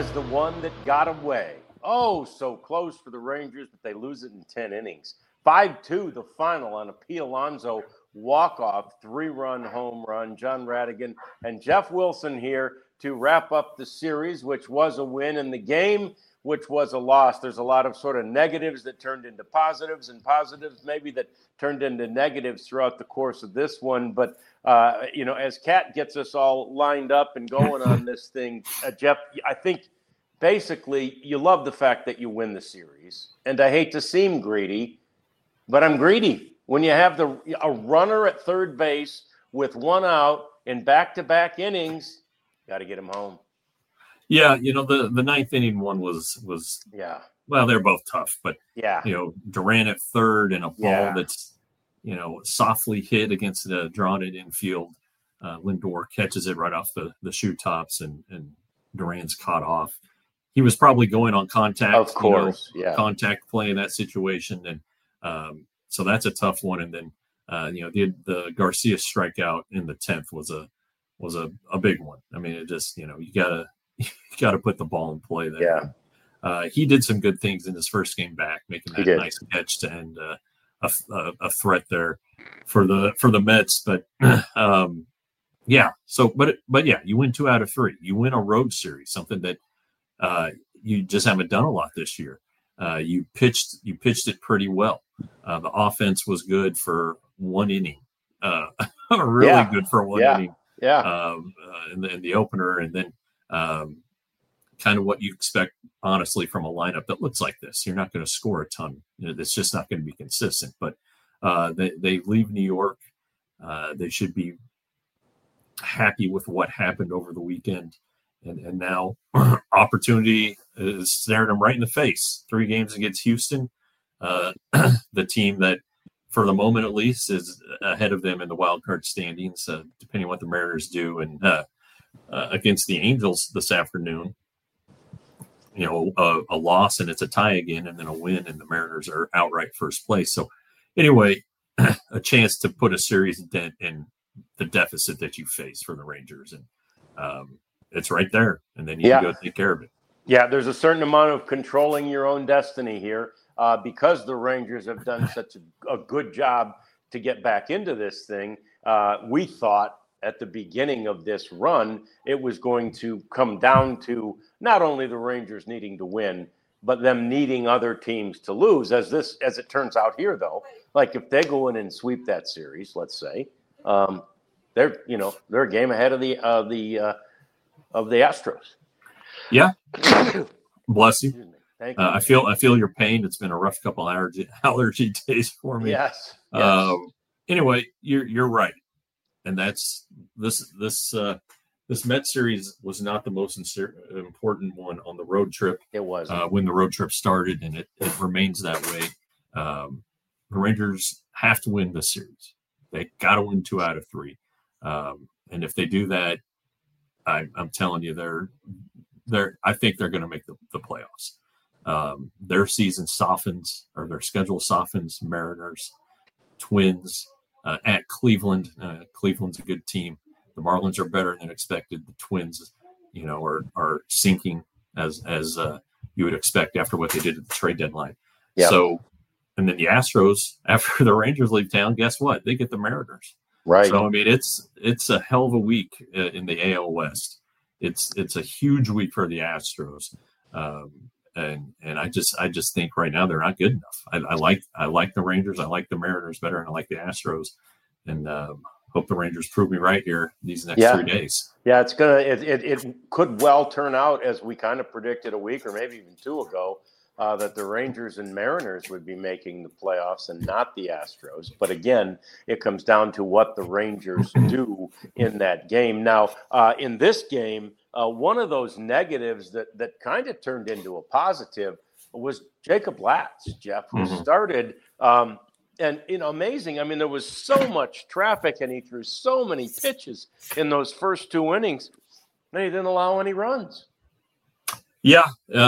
as the one that got away. Oh, so close for the Rangers, but they lose it in 10 innings. 5-2 the final on a P. Alonso walk-off, 3-run home run. John Radigan and Jeff Wilson here to wrap up the series, which was a win in the game, which was a loss. There's a lot of sort of negatives that turned into positives and positives maybe that turned into negatives throughout the course of this one. But, as Kat gets us all lined up and going on this thing, Jeff, I think basically you love the fact that you win the series. And I hate to seem greedy, but I'm greedy. When you have a runner at third base with one out in back-to-back innings, got to get him home. Yeah, the ninth inning one was well, they're both tough, but Duran at third and a ball that's softly hit against the drawn it infield. Lindor catches it right off the shoe tops, and Duran's caught off. He was probably going on contact, of course, contact play in that situation, and so that's a tough one. And then the Garcia strikeout in the 10th was a big one. I mean, it just you gotta put the ball in play there. Yeah. He did some good things in his first game back, making that nice catch to end a threat there for the Mets. But you win 2 out of 3. You win a road series, something that you just haven't done a lot this year. You pitched it pretty well. The offense was good for 1 inning, really good for 1 inning. Yeah. In the opener, and then kind of what you expect, honestly, from a lineup that looks like this. You're not going to score a ton. It's just not going to be consistent. But they leave New York. They should be happy with what happened over the weekend. And now opportunity is staring them right in the face. 3 games against Houston, the team that, for the moment at least, is ahead of them in the wild card standings, depending on what the Mariners do. And against the Angels this afternoon, a loss and it's a tie again, and then a win and the Mariners are outright first place. So anyway, a chance to put a serious dent in the deficit that you face for the Rangers. And it's right there. And then you can go take care of it. Yeah, there's a certain amount of controlling your own destiny here because the Rangers have done such a good job to get back into this thing. We thought at the beginning of this run, it was going to come down to not only the Rangers needing to win, but them needing other teams to lose. As it turns out here, though, like if they go in and sweep that series, let's say, they're a game ahead of the Astros. Yeah. Bless you. Thank you. I feel your pain. It's been a rough couple allergy days for me. Yes. Anyway, you're right. And that's this Mets series was not the most important one on the road trip. It was when the road trip started, and it remains that way. The Rangers have to win this series. They got to win 2 out of 3. And if they do that, I'm telling you, I think they're going to make the playoffs. Their season softens, or their schedule softens. Mariners, Twins, at Cleveland. Cleveland's a good team. The Marlins are better than expected. The Twins, are sinking as you would expect after what they did at the trade deadline. Yeah. So, and then the Astros, after the Rangers leave town, guess what? They get the Mariners. Right. So I mean, it's a hell of a week in the AL West. It's a huge week for the Astros, and I just think right now they're not good enough. I like the Rangers. I like the Mariners better, and I like the Astros, and hope the Rangers prove me right here these next 3 days. Yeah, it could well turn out as we kind of predicted a week or maybe even 2 ago. That the Rangers and Mariners would be making the playoffs and not the Astros. But again, it comes down to what the Rangers do in that game. Now, in this game, one of those negatives that kind of turned into a positive was Jacob Latz, Jeff, who started and amazing. I mean, there was so much traffic and he threw so many pitches in those first 2 innings, and he didn't allow any runs. Yeah.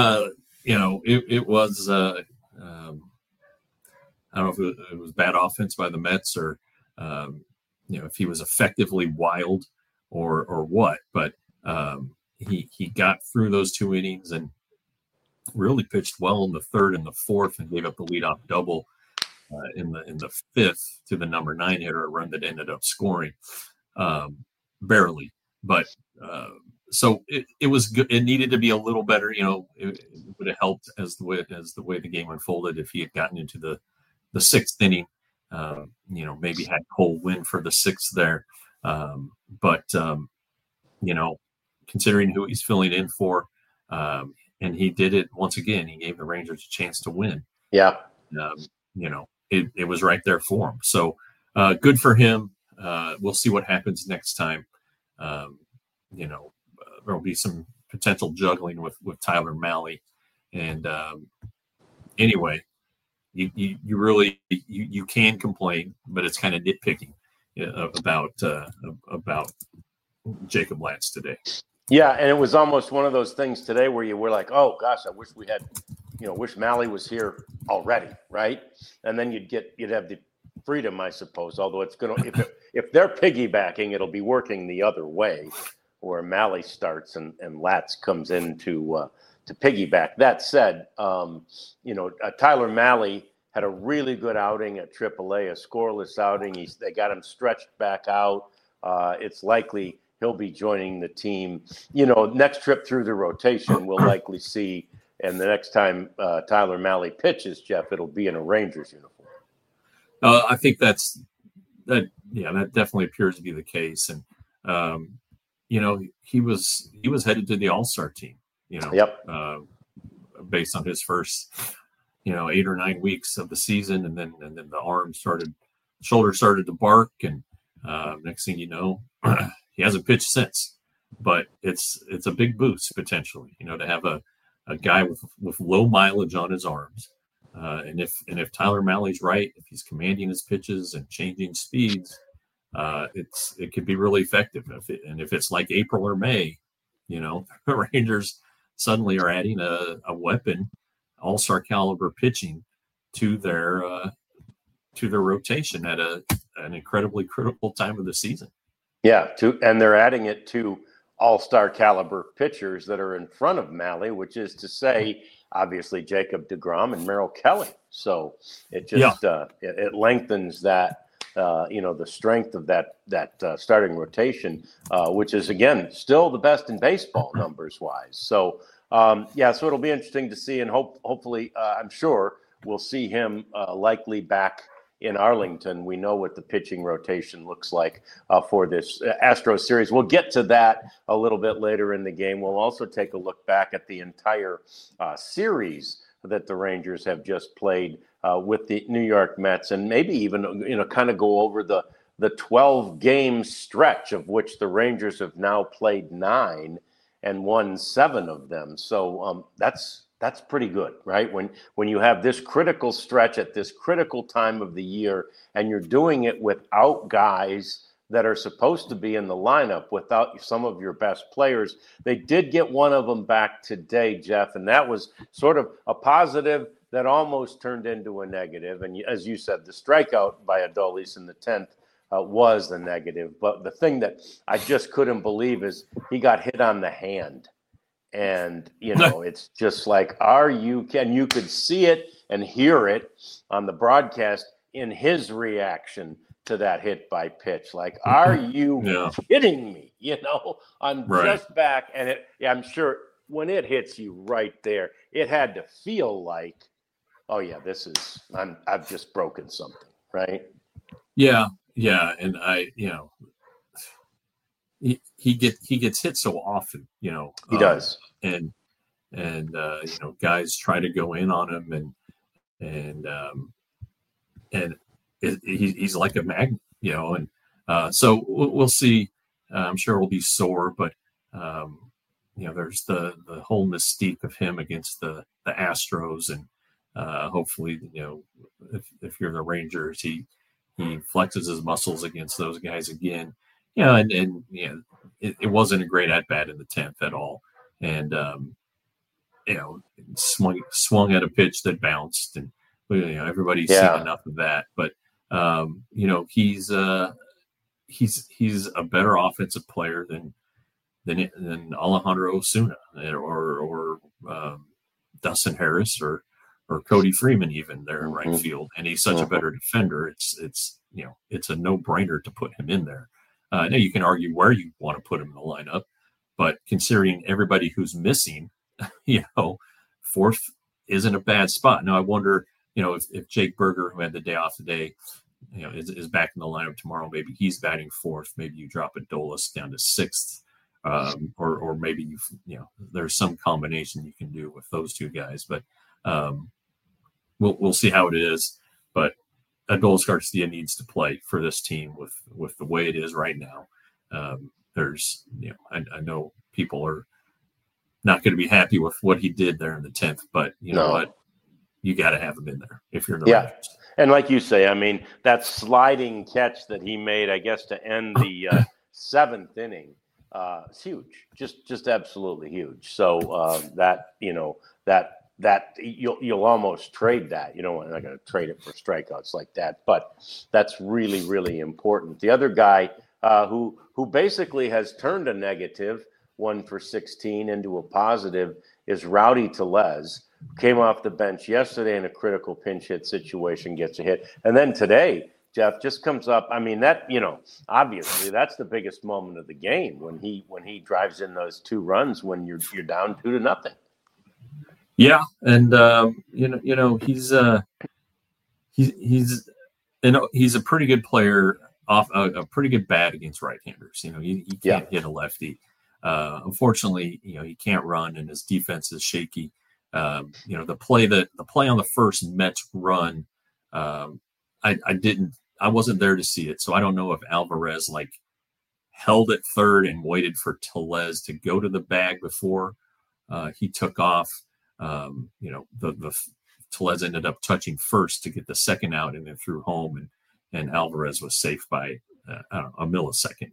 It was, I don't know if it was bad offense by the Mets or, if he was effectively wild or what, but he got through those 2 innings and really pitched well in the third and the fourth, and gave up the leadoff double in the fifth to the number 9 hitter, a run that ended up scoring barely. But so it was good. It needed to be a little better. It would have helped as the way the game unfolded if he had gotten into the sixth inning. Maybe had Cole win for the sixth there. But considering who he's filling in for, and he did it once again. He gave the Rangers a chance to win. Yeah. It was right there for him. So good for him. We'll see what happens next time. There'll be some potential juggling with Tyler Mahle. And anyway, you really can complain, but it's kind of nitpicking about Jacob Latz today. Yeah, and it was almost one of those things today where you were like, "Oh gosh, I wish we had, wish Mahle was here already," right? And then you'd have the freedom, I suppose. Although it's if they're piggybacking, it'll be working the other way, where Mahle starts and Latz comes in to piggyback. That said, Tyler Mahle had a really good outing at AAA, a scoreless outing. They got him stretched back out. It's likely he'll be joining the team. Next trip through the rotation, we'll likely see. And the next time Tyler Mahle pitches, Jeff, it'll be in a Rangers uniform. I think that definitely appears to be the case. And he was headed to the All-Star team. Yep. Based on his first 8 or 9 weeks of the season, and then the shoulder started to bark, and next thing you know, he hasn't pitched since. But it's a big boost potentially, to have a guy with low mileage on his arms, and if Tyler Mahle's right, if he's commanding his pitches and changing speeds, it could be really effective. If it's like April or May, the Rangers suddenly are adding a weapon, all-star caliber pitching to their rotation at an incredibly critical time of the season. Yeah, and they're adding it to all-star caliber pitchers that are in front of Mahle, which is to say, obviously Jacob deGrom and Merrill Kelly. So it just it lengthens that the strength of that starting rotation, which is again still the best in baseball numbers wise. So so it'll be interesting to see, and hopefully I'm sure we'll see him likely back in Arlington. We know what the pitching rotation looks like for this Astros series. We'll get to that a little bit later in the game. We'll also take a look back at the entire series that the Rangers have just played with the New York Mets, and maybe even kind of go over the 12-game stretch of which the Rangers have now played 9 and won 7 of them. So that's pretty good, right? When you have this critical stretch at this critical time of the year, and you're doing it without guys that are supposed to be in the lineup, without some of your best players. They did get one of them back today, Jeff, and that was sort of a positive that almost turned into a negative. And as you said, the strikeout by Adolis in the 10th was the negative. But the thing that I just couldn't believe is he got hit on the hand. And, it's just like, you could see it and hear it on the broadcast in his reaction to that hit by pitch. Like, are you kidding me? I'm just back. And I'm sure when it hits you right there, it had to feel like, oh yeah, I've just broken something. Right. Yeah. Yeah. And he gets hit so often, he does. And guys try to go in on him, and he's like a magnet, and so we'll see. I'm sure we'll be sore, but there's the whole mystique of him against the Astros, and hopefully, if you're the Rangers, he flexes his muscles against those guys again. It wasn't a great at bat in the 10th at all, and swung at a pitch that bounced, and everybody's seen enough of that. But he's a better offensive player than than Alejandro Osuna or Dustin Harris or Cody Freeman even there in right field, and he's such a better defender. It's it's a no-brainer to put him in there. Now you can argue where you want to put him in the lineup, but considering everybody who's missing, fourth isn't a bad spot. Now I wonder, if Jake Burger, who had the day off today, is back in the lineup tomorrow, maybe he's batting fourth. Maybe you drop Adolis down to sixth, or maybe there's some combination you can do with those two guys. But we'll see how it is. But Adolis Garcia needs to play for this team with the way it is right now. There's I know people are not going to be happy with what he did there in the 10th, but you know what? You got to have him in there if you're the Rangers. And like you say, I mean, that sliding catch that he made, I guess, to end the seventh inning, it's huge, just absolutely huge. So that you'll almost trade that. You're not going to trade it for strikeouts like that, but that's really, really important. The other guy who basically has turned a negative 1 for 16 into a positive is Rowdy Tellez. Came off the bench yesterday in a critical pinch hit situation, gets a hit. And then today, Jeff, just comes up. I mean, that, obviously that's the biggest moment of the game when he drives in those 2 runs when you're down 2-0. Yeah. And, he's a pretty good player off a pretty good bat against right-handers. He can't hit a lefty. Unfortunately, he can't run and his defense is shaky. The play on the first Mets run, I wasn't there to see it, so I don't know if Alvarez held at third and waited for Tellez to go to the bag before he took off. The Tellez ended up touching first to get the second out and then threw home, and Alvarez was safe by a millisecond.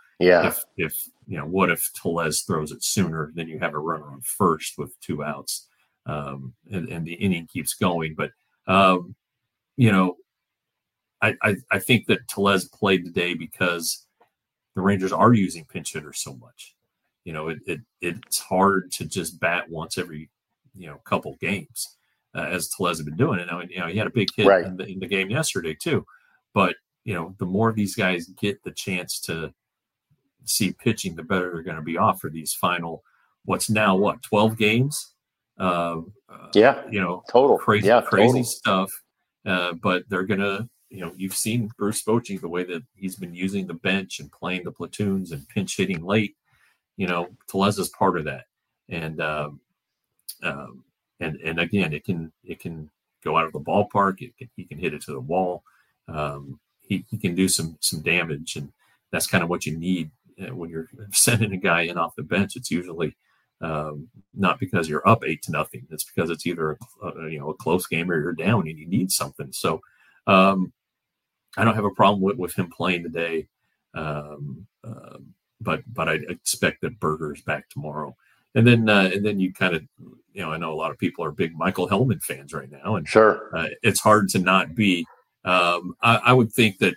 What if Tellez throws it sooner? Then you have a runner on first with 2 outs. And the inning keeps going. But, I think that Tellez played today because the Rangers are using pinch hitters so much. It's hard to just bat once every, couple games, as Tellez has been doing it. Now, he had a big hit in the game yesterday too. But, the more these guys get the chance to see pitching, the better they're going to be off for these final, 12 games? Total crazy stuff. But they're gonna, you've seen Bruce Bochy, the way that he's been using the bench and playing the platoons and pinch hitting late. Tellez is part of that, and again, it can go out of the ballpark. He can hit it to the wall. He can do some damage, and that's kind of what you need when you're sending a guy in off the bench. It's usually not because you're up 8-0. It's because it's either a close game or you're down and you need something. So I don't have a problem with him playing today. But I expect that Burger's back tomorrow. And then you kind of, I know a lot of people are big Michael Hellman fans right now, and sure, it's hard to not be. I would think that,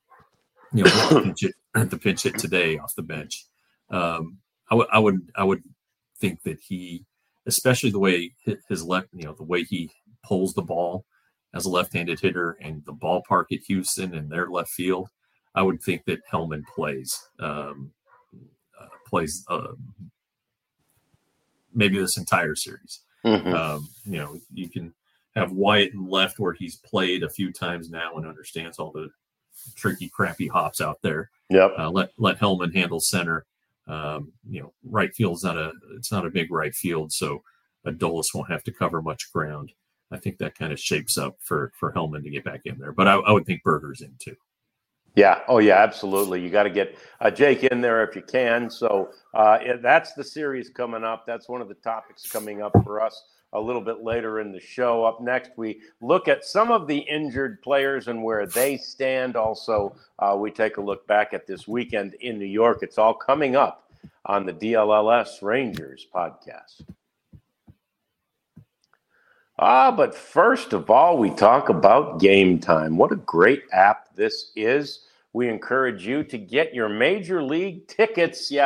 the pinch hit today off the bench. I would think that he, especially the way his left, the way he pulls the ball as a left-handed hitter and the ballpark at Houston and their left field, I would think that Hellman plays maybe this entire series. You can have Wyatt in left where he's played a few times now and understands all the tricky, crappy hops out there. Let Hellman handle center. Right field is not a big right field, so Adolis won't have to cover much ground. I think that kind of shapes up for Hellman to get back in there, but I would think Burger's in too. Yeah. Oh, yeah, absolutely. You got to get Jake in there if you can. So that's the series coming up. That's one of the topics coming up for us a little bit later in the show. Up next, we look at some of the injured players and where they stand. Also, we take a look back at this weekend in New York. It's all coming up on the DLLS Rangers podcast. But first of all, we talk about Game Time. What a great app this is. We encourage you to get your Major League tickets.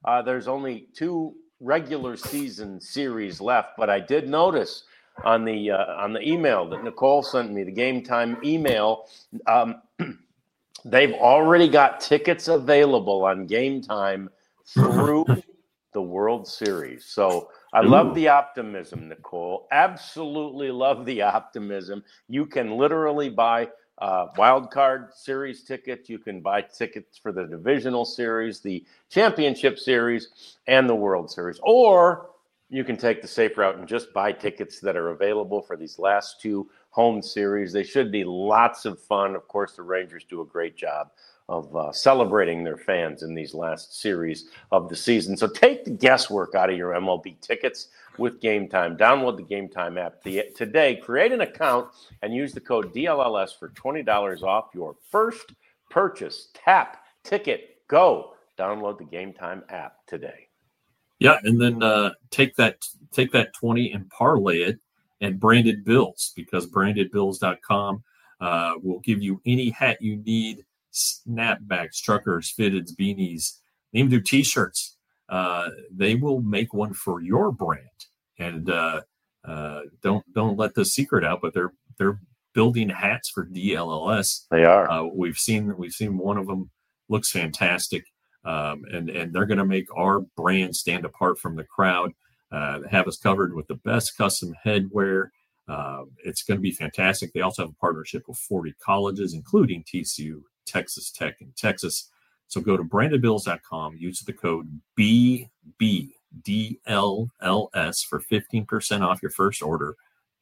There's only 2 regular season series left, but I did notice on the email that Nicole sent me, the Game Time email, they've already got tickets available on Game Time through the World Series. So I love the optimism, Nicole. Absolutely love the optimism. You can literally buy wild card series tickets. You can buy tickets for the divisional series, the championship series, and the World Series. Or you can take the safe route and just buy tickets that are available for these last 2 home series. They should be lots of fun. Of course, the Rangers do a great job of celebrating their fans in these last series of the season. So take the guesswork out of your MLB tickets with Game Time. Download the Game Time app today. Create an account and use the code DLLS for $20 off your first purchase. Tap, ticket, go. Download the Game Time app today. Yeah, and then take that 20 and parlay it at Branded Bills, because brandedbills.com will give you any hat you need, snapbacks, truckers, fitteds, beanies, even do T-shirts. They will make one for your brand, and don't let the secret out. But they're building hats for DLLS. They are. We've seen one of them, looks fantastic, and they're going to make our brand stand apart from the crowd. Have us covered with the best custom headwear. It's going to be fantastic. They also have a partnership with 40 colleges, including TCU, Texas Tech, and Texas. So go to brandedbills.com, use the code BBDLLS for 15% off your first order.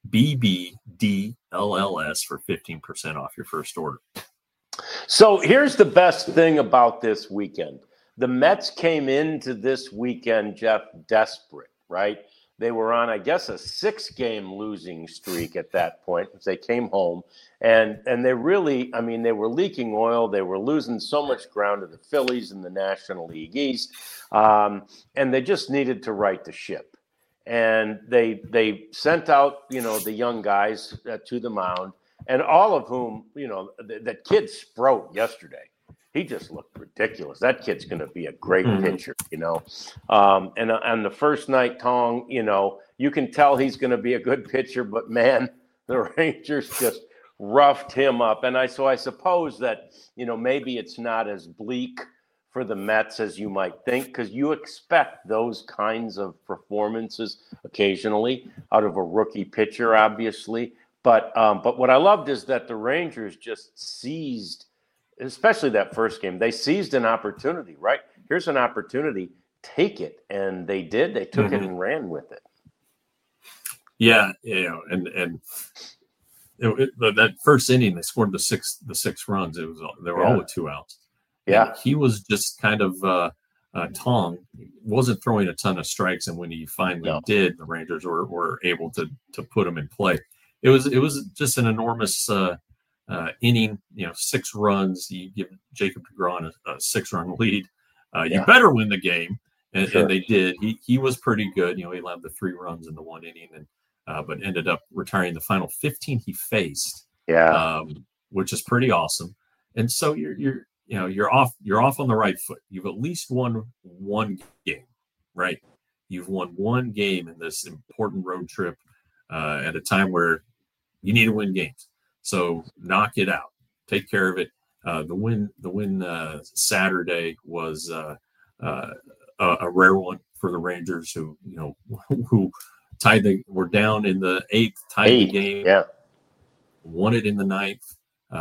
BBDLLS for 15% off your first order. So here's the best thing about this weekend. The Mets came into this weekend, Jeff, desperate, right? They were on, I guess, a 6-game losing streak at that point as they came home. And they really, they were leaking oil. They were losing so much ground to the Phillies in the National League East. And they just needed to right the ship. And they sent out, the young guys to the mound, and all of whom, that kid Sprout yesterday. He just looked ridiculous. That kid's going to be a great pitcher, And on the first night, Tong, you can tell he's going to be a good pitcher, but man, the Rangers just roughed him up. And I suppose that, maybe it's not as bleak for the Mets as you might think, because you expect those kinds of performances occasionally out of a rookie pitcher, obviously. But what I loved is that the Rangers just seized, especially that first game, they seized an opportunity, right? Here's an opportunity, take it. And they did. They took it and ran with it. Yeah, and that first inning, they scored the six runs. They were all with 2 outs. Yeah. And he was just kind of Tong wasn't throwing a ton of strikes, and when he finally did, the Rangers were able to put him in play. It was just an enormous inning, 6 runs. You give Jacob DeGrom a 6-run lead. You better win the game, and they did. He was pretty good. He allowed the 3 runs in the 1 inning, and but ended up retiring the final 15 he faced. Which is pretty awesome. And so you're off on the right foot. You've at least won 1 game, right? You've won 1 game in this important road trip at a time where you need to win games. So knock it out. Take care of it. The win Saturday was a rare one for the Rangers, who were down in the 8th, tied the game, won it in the 9th,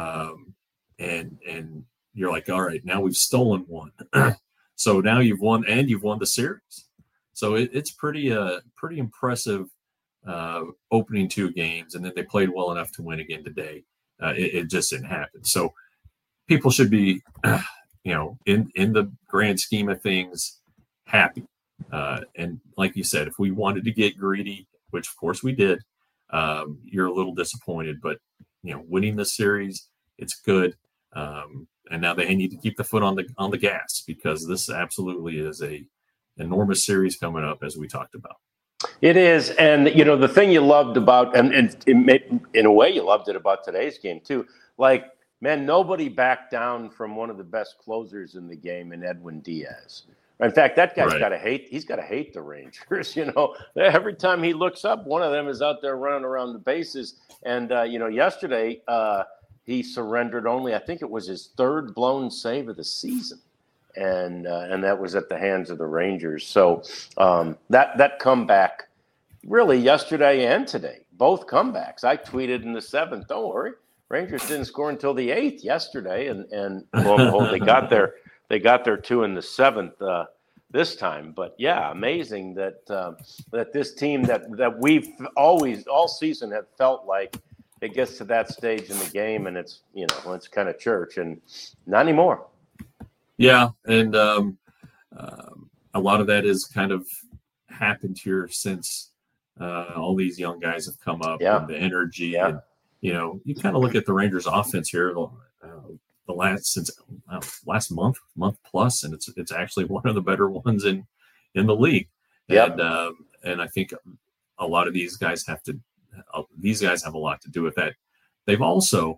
and you're like, all right, now we've stolen 1. So now you've won the series. So it's pretty impressive. Opening 2 games, and then they played well enough to win again today. It just didn't happen. So people should be, in the grand scheme of things, happy. And like you said, if we wanted to get greedy, which of course we did, you're a little disappointed. But winning the series, it's good. And now they need to keep the foot on the gas, because this absolutely is a enormous series coming up, as we talked about. It is. And, the thing you loved about, and in a way you loved it about today's game too, like, man, nobody backed down from one of the best closers in the game in Edwin Diaz, In fact, that guy's Right. got to hate. He's got to hate the Rangers. Every time he looks up, one of them is out there running around the bases. And yesterday he surrendered only. I think it was his third blown save of the season, and that was at the hands of the Rangers. So that comeback, really yesterday and today, both comebacks. I tweeted in the seventh. Don't worry, Rangers didn't score until the eighth yesterday, and lo and behold, they got there. They got their two in the seventh this time. But yeah, amazing that this team that we've always all season have felt like it gets to that stage in the game and it's it's kind of church, and not anymore. Yeah, and a lot of that has kind of happened here since all these young guys have come up, and the energy. Yeah. And, you kind of look at the Rangers offense here. The last month plus, and it's actually one of the better ones in the league. Yep. And I think a lot of these guys have a lot to do with that. They've also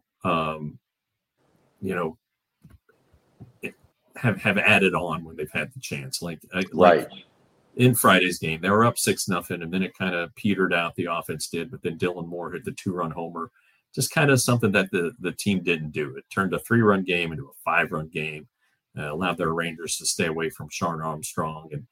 have added on when they've had the chance, like in Friday's game they were up 6-0, and then it kind of petered out, the offense did, but then Dylan Moore hit the 2-run homer. Just kind of something that the team didn't do. It turned a 3-run game into a 5-run game, allowed their Rangers to stay away from Sean Armstrong. And,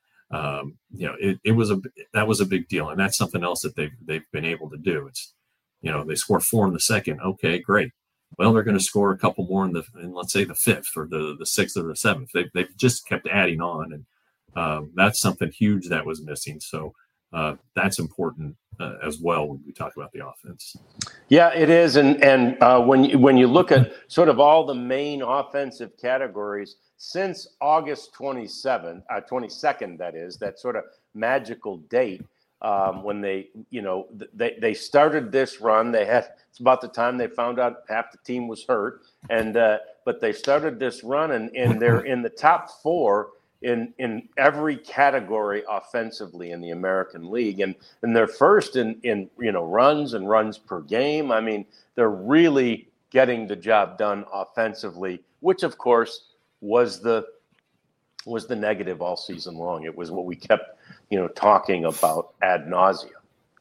that was a big deal. And that's something else that they've been able to do. It's, they score 4 in the second. Okay, great. Well, they're going to score a couple more in let's say the 5th or the 6th or the 7th. They've just kept adding on. And that's something huge that was missing. So that's important as well when we talk about the offense. Yeah, it is, and when you look at sort of all the main offensive categories since August 22nd, that is that sort of magical date when they started this run. It's about the time they found out half the team was hurt, and but they started this run, and they're in the top 4. In every category offensively in the American League, and they're first in runs per game. I mean, they're really getting the job done offensively, which of course was the negative all season long. It was what we kept talking about ad nauseum.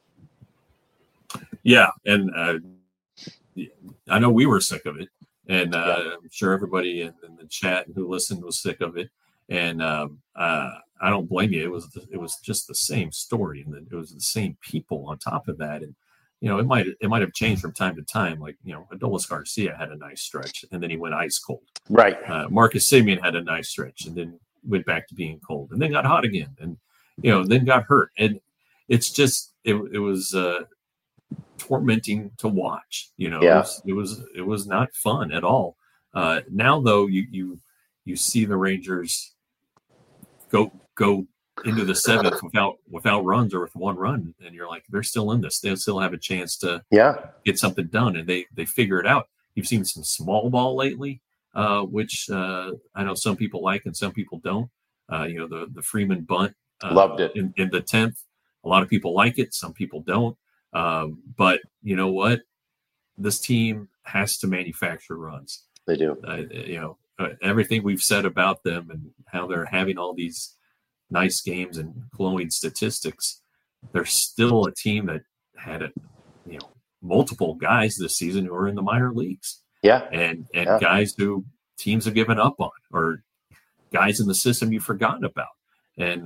Yeah, and I know we were sick of it, and I'm sure everybody in the chat who listened was sick of it. And I don't blame you. It was just the same story, and it was the same people on top of that. And it might have changed from time to time. Like Adolis Garcia had a nice stretch, and then he went ice cold. Right. Marcus Semien had a nice stretch, and then went back to being cold, and then got hot again, and then got hurt. And it's just it was tormenting to watch. Yeah. It was not fun at all. Now though, you see the Rangers go into the 7th without runs or with 1 run, and you're like, they're still in this. They still have a chance to get something done, and they figure it out. You've seen some small ball lately, which I know some people like and some people don't. The Freeman bunt, loved it in the 10th. A lot of people like it, some people don't. But you know what? This team has to manufacture runs. They do. Everything we've said about them and how they're having all these nice games and glowing statistics, they're still a team that had multiple guys this season who are in the minor leagues. Yeah. And guys who teams have given up on, or guys in the system you've forgotten about. And,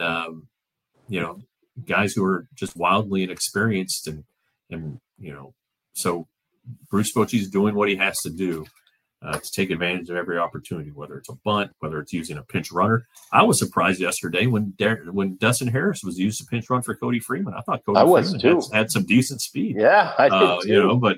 guys who are just wildly inexperienced and so Bruce Bochy's doing what he has to do to take advantage of every opportunity, whether it's a bunt, whether it's using a pinch runner. I was surprised yesterday when Dustin Harris was used to pinch run for Cody Freeman. I thought Cody Freeman had some decent speed. Yeah, I did too. But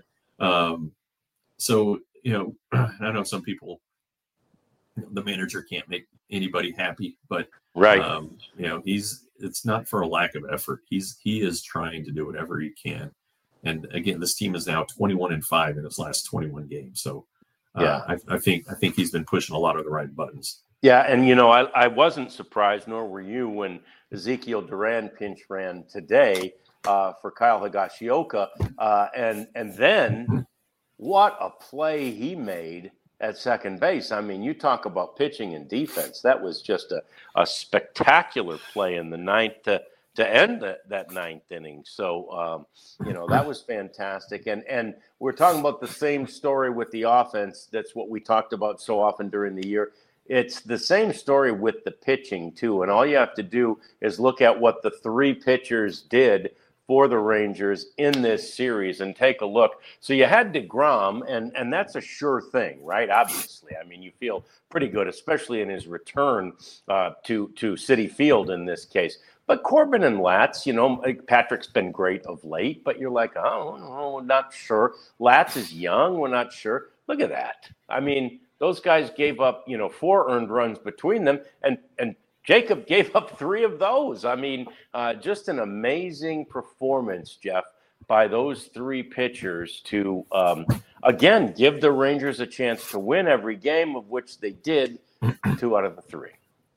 I know some people, the manager can't make anybody happy, but right. It's not for a lack of effort. He is trying to do whatever he can. And again, this team is now 21-5 in his last 21 games. So I think he's been pushing a lot of the right buttons. Yeah, and I wasn't surprised, nor were you, when Ezekiel Duran pinch ran today for Kyle Higashioka, and then what a play he made at second base. I mean, you talk about pitching and defense. That was just a spectacular play in the ninth to end that ninth inning. So, that was fantastic. And we're talking about the same story with the offense. That's what we talked about so often during the year. It's the same story with the pitching, too. And all you have to do is look at what the three pitchers did for the Rangers in this series and take a look. So you had DeGrom, and that's a sure thing, right? Obviously. I mean, you feel pretty good, especially in his return to Citi Field in this case. But Corbin and Latz, Patrick's been great of late, but you're like, oh, no, we're not sure. Latz is young. We're not sure. Look at that. I mean, those guys gave up, 4 earned runs between them, and Jacob gave up 3 of those. I mean, just an amazing performance, Jeff, by those 3 pitchers to, again, give the Rangers a chance to win every game, of which they did 2 out of the 3.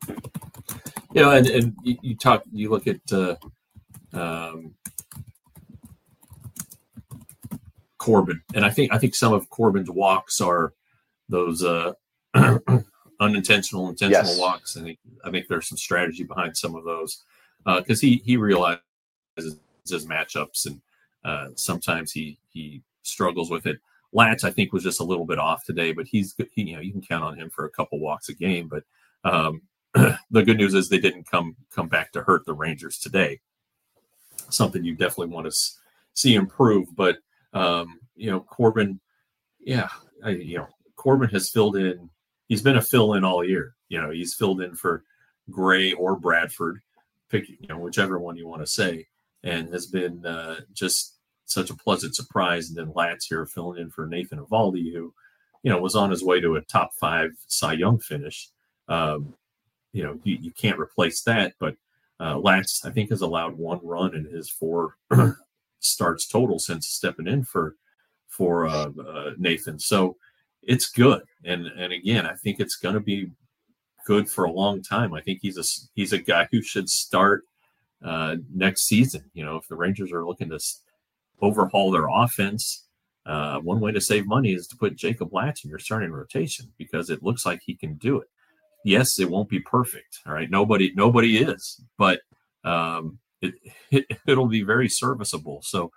And you look at Corbin, and I think some of Corbin's walks are those unintentional, intentional walks, and I think there's some strategy behind some of those because he realizes his matchups, and sometimes he struggles with it. Latz, I think, was just a little bit off today, but you can count on him for a couple walks a game. But the good news is they didn't come back to hurt the Rangers today. Something you definitely want to see improve. But Corbin, Corbin has filled in. He's been a fill-in all year. He's filled in for Gray or Bradford, pick whichever one you want to say, and has been just such a pleasant surprise. And then Latz here filling in for Nathan Eovaldi, who was on his way to a top 5 Cy Young finish. You can't replace that, but Latz, I think, has allowed 1 run in his 4 starts total since stepping in for Nathan. So it's good, and again, I think it's going to be good for a long time. I think he's a guy who should start next season. If the Rangers are looking to overhaul their offense, one way to save money is to put Jacob Latz in your starting rotation because it looks like he can do it. Yes, it won't be perfect. All right, nobody is, but it'll be very serviceable. So,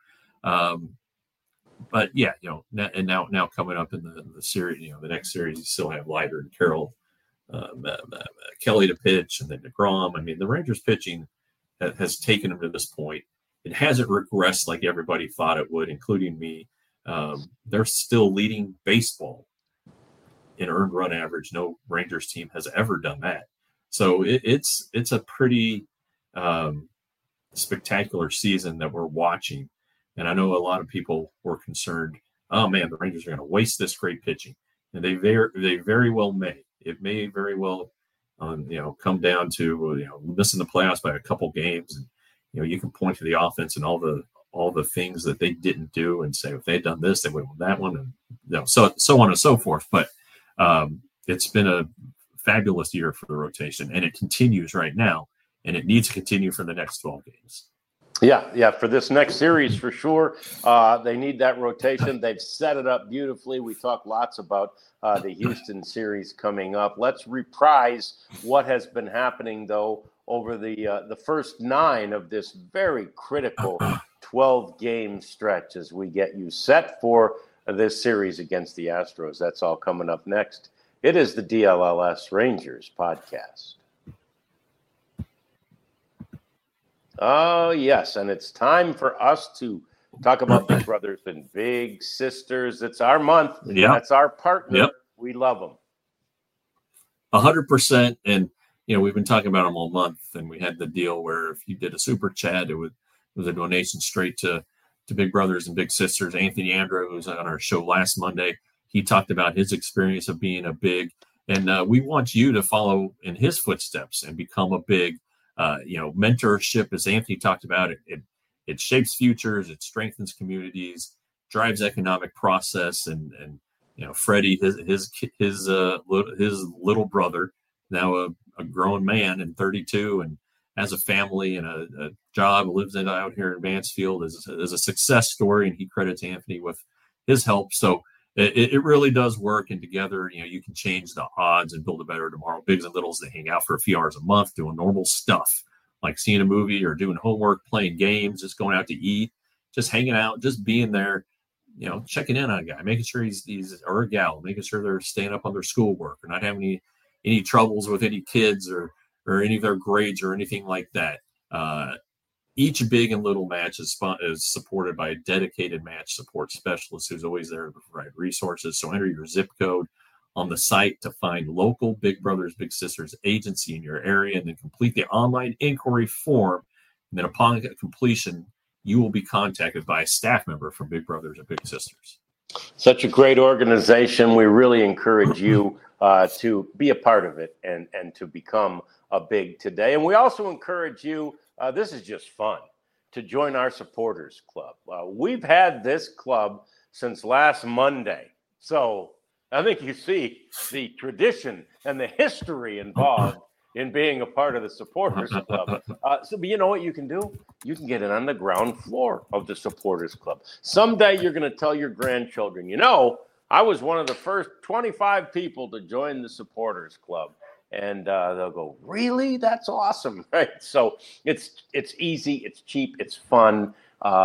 but yeah, and now coming up in the series, the next series, you still have Leiter and Carroll, Kelly to pitch, and then DeGrom. I mean, the Rangers pitching has taken them to this point. It hasn't regressed like everybody thought it would, including me. They're still leading baseball in earned run average. No Rangers team has ever done that. So it's a pretty spectacular season that we're watching. And I know a lot of people were concerned, oh man, the Rangers are going to waste this great pitching. And they very well may. It may very well come down to missing the playoffs by a couple games. And you can point to the offense and all the things that they didn't do and say if they had done this, they would have won that one, and so on and so forth. But it's been a fabulous year for the rotation, and it continues right now, and it needs to continue for the next 12 games. Yeah, for this next series for sure. They need that rotation. They've set it up beautifully. We talked lots about the Houston series coming up. Let's reprise what has been happening, though, over the first 9 of this very critical 12-game stretch as we get you set for this series against the Astros. That's all coming up next. It is the DLLS Rangers podcast. Oh, yes, and it's time for us to talk about Big Brothers and Big Sisters. It's our month. Yep. That's our partner. Yep. We love them. 100%. And, we've been talking about them all month, and we had the deal where if you did a super chat, it was a donation straight to Big Brothers and Big Sisters. Anthony Andrew, who was on our show last Monday, he talked about his experience of being a big, and we want you to follow in his footsteps and become a big, mentorship, as Anthony talked about. It shapes futures, it strengthens communities, drives economic process, and Freddie, his little brother, now a grown man and 32, and has a family and a job, lives out here in Mansfield, is a success story, and he credits Anthony with his help. So it really does work. And together, you can change the odds and build a better tomorrow. Bigs and littles, they hang out for a few hours a month doing normal stuff like seeing a movie or doing homework, playing games, just going out to eat, just hanging out, just being there, checking in on a guy, making sure he's or a gal, making sure they're staying up on their schoolwork or not having any troubles with any kids or any of their grades or anything like that. Each big and little match is supported by a dedicated match support specialist who's always there to provide resources. So enter your zip code on the site to find local Big Brothers Big Sisters agency in your area, and then complete the online inquiry form. And then upon completion, you will be contacted by a staff member from Big Brothers and Big Sisters. Such a great organization. We really encourage you to be a part of it and to become a Big today. And we also encourage you, this is just fun, to join our supporters club. We've had this club since last Monday. So I think you see the tradition and the history involved in being a part of the supporters club. But you know what you can do? You can get it on the ground floor of the supporters club. Someday you're going to tell your grandchildren, I was one of the first 25 people to join the supporters club. And they'll go, really? That's awesome, right? So it's easy, it's cheap, it's fun.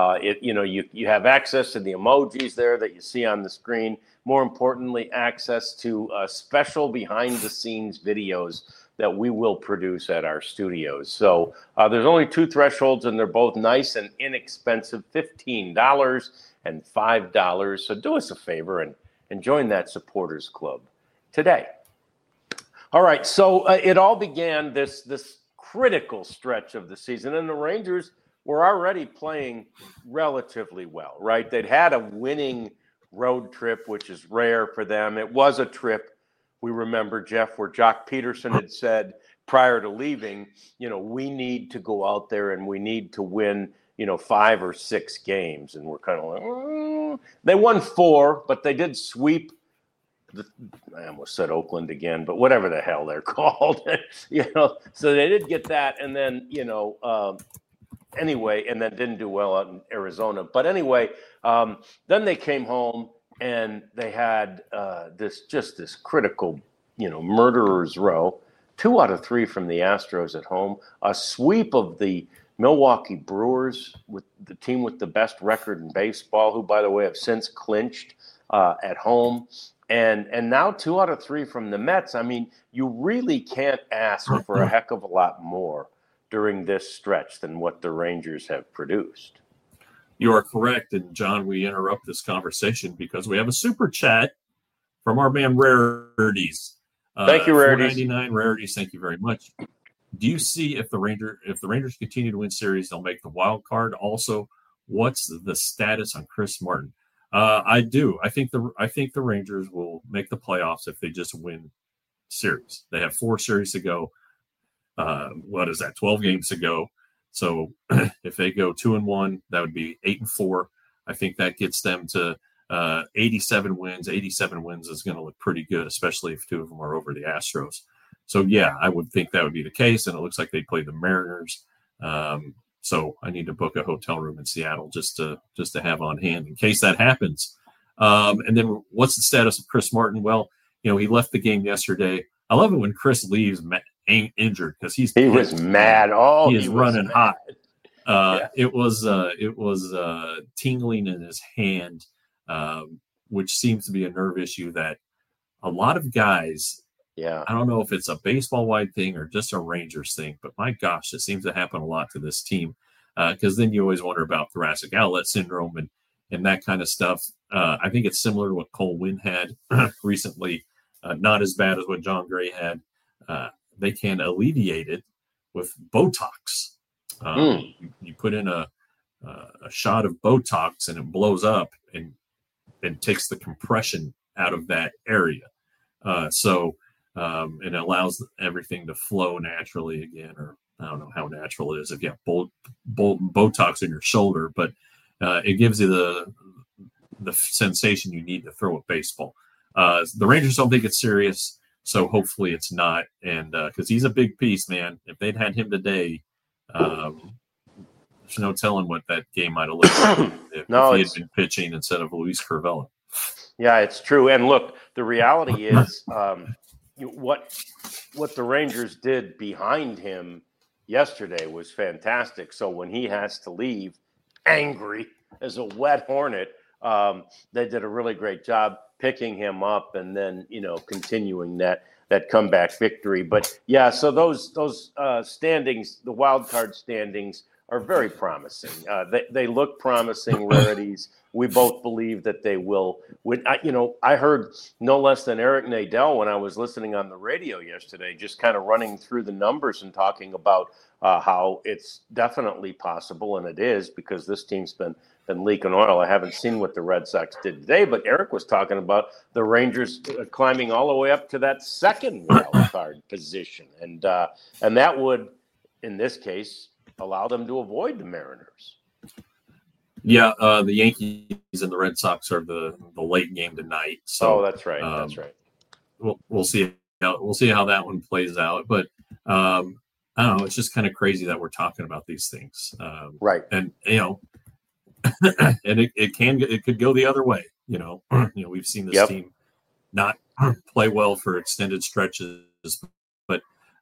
You have access to the emojis there that you see on the screen. More importantly, access to special behind-the-scenes videos that we will produce at our studios. So there's only two thresholds, and they're both nice and inexpensive, $15 and $5. So do us a favor and join that supporters club today. All right, so it all began this critical stretch of the season, and the Rangers were already playing relatively well, right? They'd had a winning road trip, which is rare for them. It was a trip, we remember, Jeff, where Jock Peterson had said prior to leaving, we need to go out there and we need to win, 5 or 6 games. And we're kind of like, They won 4, but they did sweep I almost said Oakland again, but whatever the hell they're called, so they did get that. And then, anyway, and then didn't do well out in Arizona. But anyway, then they came home and they had this critical, murderer's row, 2 out of 3 from the Astros at home, a sweep of the Milwaukee Brewers, with the team with the best record in baseball, who, by the way, have since clinched at home. And now 2 out of 3 from the Mets. I mean, you really can't ask for a heck of a lot more during this stretch than what the Rangers have produced. You are correct. And, John, we interrupt this conversation because we have a super chat from our man Rarities. Thank you, Rarities. 499 Rarities, thank you very much. Do you see if the Rangers continue to win series, they'll make the wild card? Also, what's the status on Chris Martin? I do. I think the Rangers will make the playoffs if they just win series. They have 4 series to go. What is that? 12 games to go. So if they go 2-1, that would be 8-4. I think that gets them to 87 wins. 87 wins is going to look pretty good, especially if 2 of them are over the Astros. So yeah, I would think that would be the case. And it looks like they play the Mariners. So I need to book a hotel room in Seattle just to have on hand in case that happens. And then what's the status of Chris Martin? Well, he left the game yesterday. I love it when Chris leaves injured because he was mad. Oh, he is running hot. It was tingling in his hand, which seems to be a nerve issue that a lot of guys. Yeah, I don't know if it's a baseball-wide thing or just a Rangers thing, but my gosh, it seems to happen a lot to this team because then you always wonder about thoracic outlet syndrome and that kind of stuff. I think it's similar to what Cole Winn had recently, not as bad as what John Gray had. They can alleviate it with Botox. You put in a shot of Botox and it blows up and takes the compression out of that area. And it allows everything to flow naturally again, or I don't know how natural it is if you have Botox in your shoulder, but it gives you the sensation you need to throw a baseball. The Rangers don't think it's serious, so hopefully it's not. And because he's a big piece, man. If they'd had him today, there's no telling what that game might have looked like if he had been pitching instead of Luis Curvelo. Yeah, it's true. And look, the reality is what the Rangers did behind him yesterday was fantastic. So when he has to leave angry as a wet hornet, they did a really great job picking him up and then, continuing that comeback victory. But yeah, so those standings, the wild card standings, are very promising. They look promising, Rarities. We both believe that they will win. I heard no less than Eric Nadel when I was listening on the radio yesterday, just kind of running through the numbers and talking about how it's definitely possible, and it is, because this team's been leaking oil. I haven't seen what the Red Sox did today, but Eric was talking about the Rangers climbing all the way up to that second wild card position, and that would, in this case, allow them to avoid the Mariners. Yeah, the Yankees and the Red Sox are the late game tonight. So that's right. That's right. We'll see how that one plays out. But I don't know. It's just kind of crazy that we're talking about these things. Right. And and it could go the other way. We've seen this team not play well for extended stretches, but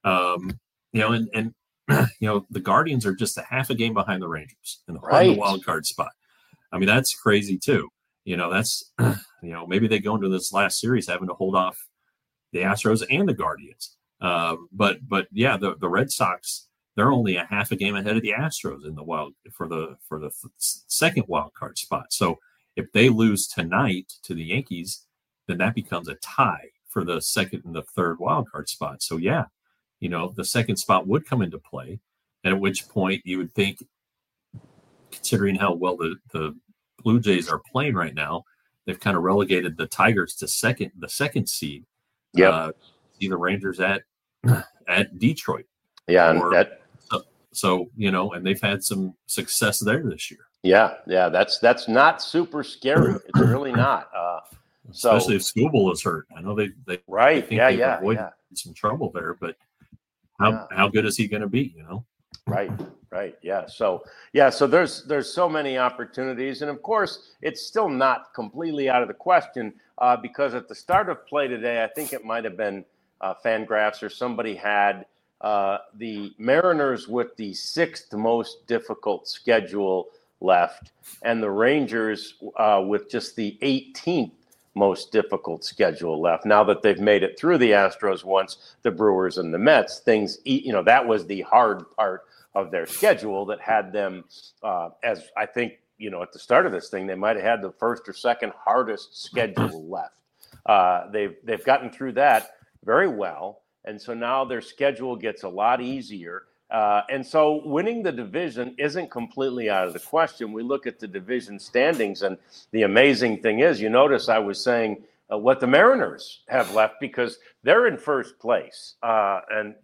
the Guardians are just a half a game behind the Rangers in the wild card spot. I mean, that's crazy too. That's maybe they go into this last series having to hold off the Astros and the Guardians. But yeah, the Red Sox, they're only a half a game ahead of the Astros in for the second wild card spot. So if they lose tonight to the Yankees, then that becomes a tie for the second and the third wild card spot. So yeah, the second spot would come into play, and at which point you would think, considering how well the Blue Jays are playing right now, they've kind of relegated the Tigers to the second seed. Yeah, see the Rangers at Detroit. Yeah, and they've had some success there this year. Yeah, that's not super scary. It's really not. Especially if Skubal is hurt. I know they right. They've avoided some trouble there, but how good is he going to be? Right. Yeah. So there's so many opportunities, and of course it's still not completely out of the question because at the start of play today, I think it might have been Fangraphs or somebody had the Mariners with the sixth most difficult schedule left, and the Rangers with just the 18th most difficult schedule left. Now that they've made it through the Astros once, the Brewers and the Mets, that was the hard part of their schedule that had them, as I think, at the start of this thing, they might have had the first or second hardest schedule left. They've gotten through that very well, and so now their schedule gets a lot easier. And so winning the division isn't completely out of the question. We look at the division standings, and the amazing thing is, you notice I was saying what the Mariners have left because they're in first place. Because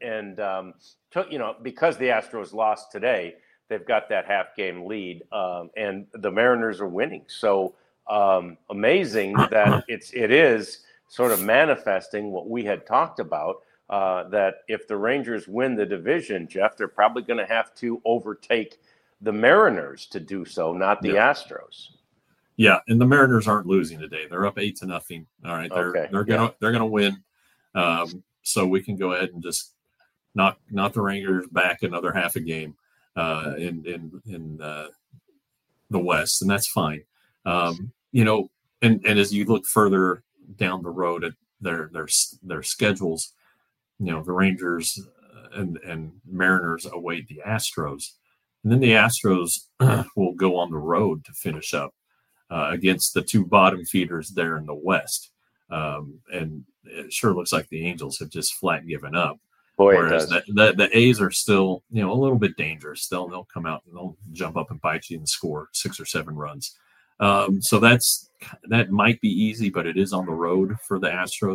the Astros lost today, they've got that half game lead, and the Mariners are winning. So amazing that it is sort of manifesting what we had talked about. That if the Rangers win the division, Jeff, they're probably going to have to overtake the Mariners to do so, not the Astros. Yeah, and the Mariners aren't losing today. They're up 8-0. All right, they're gonna win. So we can go ahead and just knock the Rangers back another half a game in the West, and that's fine. And as you look further down the road at their schedules. The Rangers and Mariners await the Astros. And then the Astros will go on the road to finish up against the two bottom feeders there in the West. And it sure looks like the Angels have just flat given up. Boy, whereas the A's are still, a little bit dangerous. They'll come out and they'll jump up and bite you and score 6 or 7 runs. So that might be easy, but it is on the road for the Astros.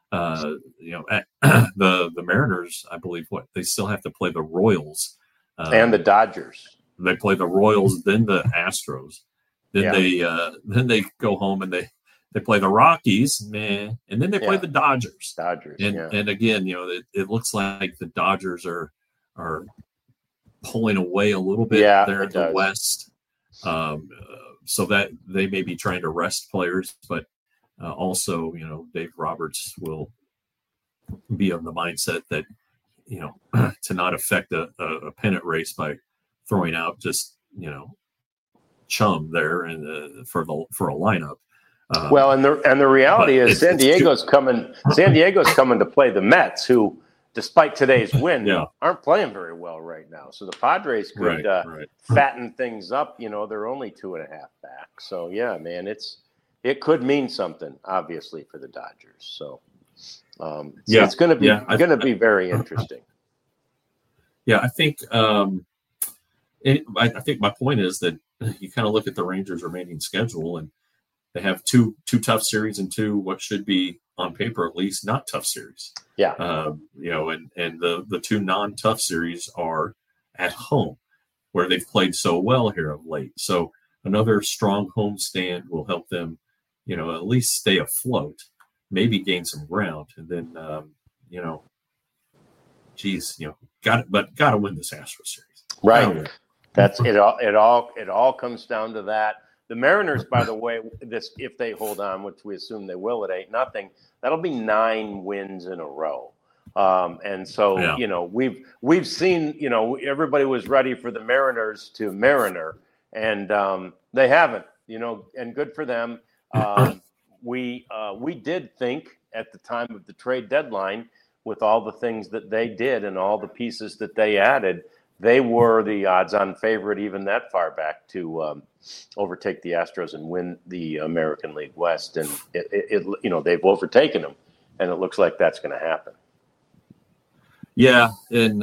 The Mariners, I believe, they still have to play the Royals and the Dodgers. They play the Royals, then the Astros, then they go home and they play the Rockies, and then they play the Dodgers. And again, it looks like the Dodgers are pulling away a little bit there in the West, so that they may be trying to rest players, but Also, Dave Roberts will be of the mindset that, to not affect a pennant race by throwing out just, chum there and for a lineup. Well, and the reality is San Diego's coming to play the Mets, who, despite today's win, aren't playing very well right now. So the Padres could fatten things up. They're only 2.5 back. So yeah, man, it could mean something, obviously, for the Dodgers. So it's going to be very interesting. Yeah, I think I think my point is that you kind of look at the Rangers' remaining schedule, and they have two tough series and two what should be on paper at least not tough series. Yeah. And the two non-tough series are at home, where they've played so well here of late. So another strong home stand will help them, at least stay afloat, maybe gain some ground, and then got to win this Astros series. Right. That's it. It all comes down to that. The Mariners, by the way, if they hold on, which we assume they will at 8-0, that'll be 9 wins in a row. And so, we've seen, everybody was ready for the Mariners to Mariner, and they haven't, and good for them. We did think at the time of the trade deadline, with all the things that they did and all the pieces that they added, they were the odds-on favorite even that far back to overtake the Astros and win the American League West. And they've overtaken them, and it looks like that's going to happen. Yeah, and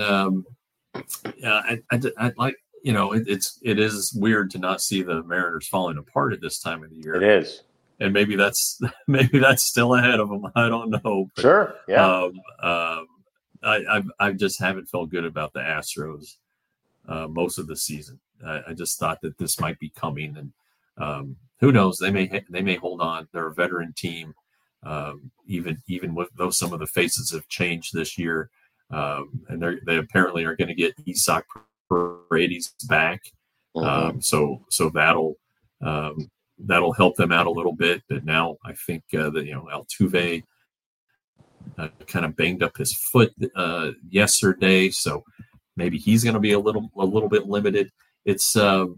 I like it is weird to not see the Mariners falling apart at this time of the year. It is. And maybe that's still ahead of them. I don't know. But, sure. Yeah. I just haven't felt good about the Astros most of the season. I just thought that this might be coming, and who knows? They may hold on. They're a veteran team, even with though some of the faces have changed this year, and they apparently are going to get Isaac Paredes back. Mm-hmm. So that'll help them out a little bit. But now I think that Altuve kind of banged up his foot yesterday, so maybe he's going to be a little bit limited. It's hard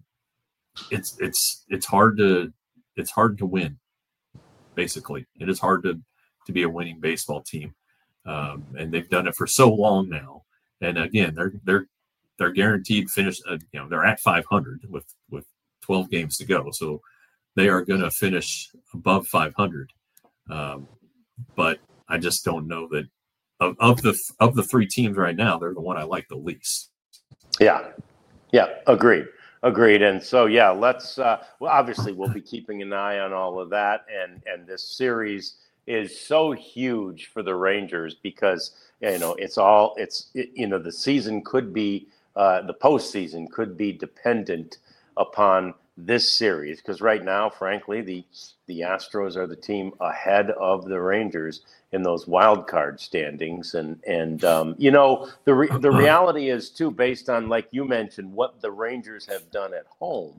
to win. Basically, it is hard to be a winning baseball team, and they've done it for so long now. And again, they're guaranteed finish. They're at 500 with 12 games to go, so they are going to finish above 500. But I just don't know that of the 3 teams right now, they're the one I like the least. Yeah, agreed. And so let's. Obviously, we'll be keeping an eye on all of that, and this series is so huge for the Rangers because the season could be the postseason could be dependent upon this series, because right now, frankly, the Astros are the team ahead of the Rangers in those wild card standings, and the reality is too, based on, like you mentioned, what the Rangers have done at home,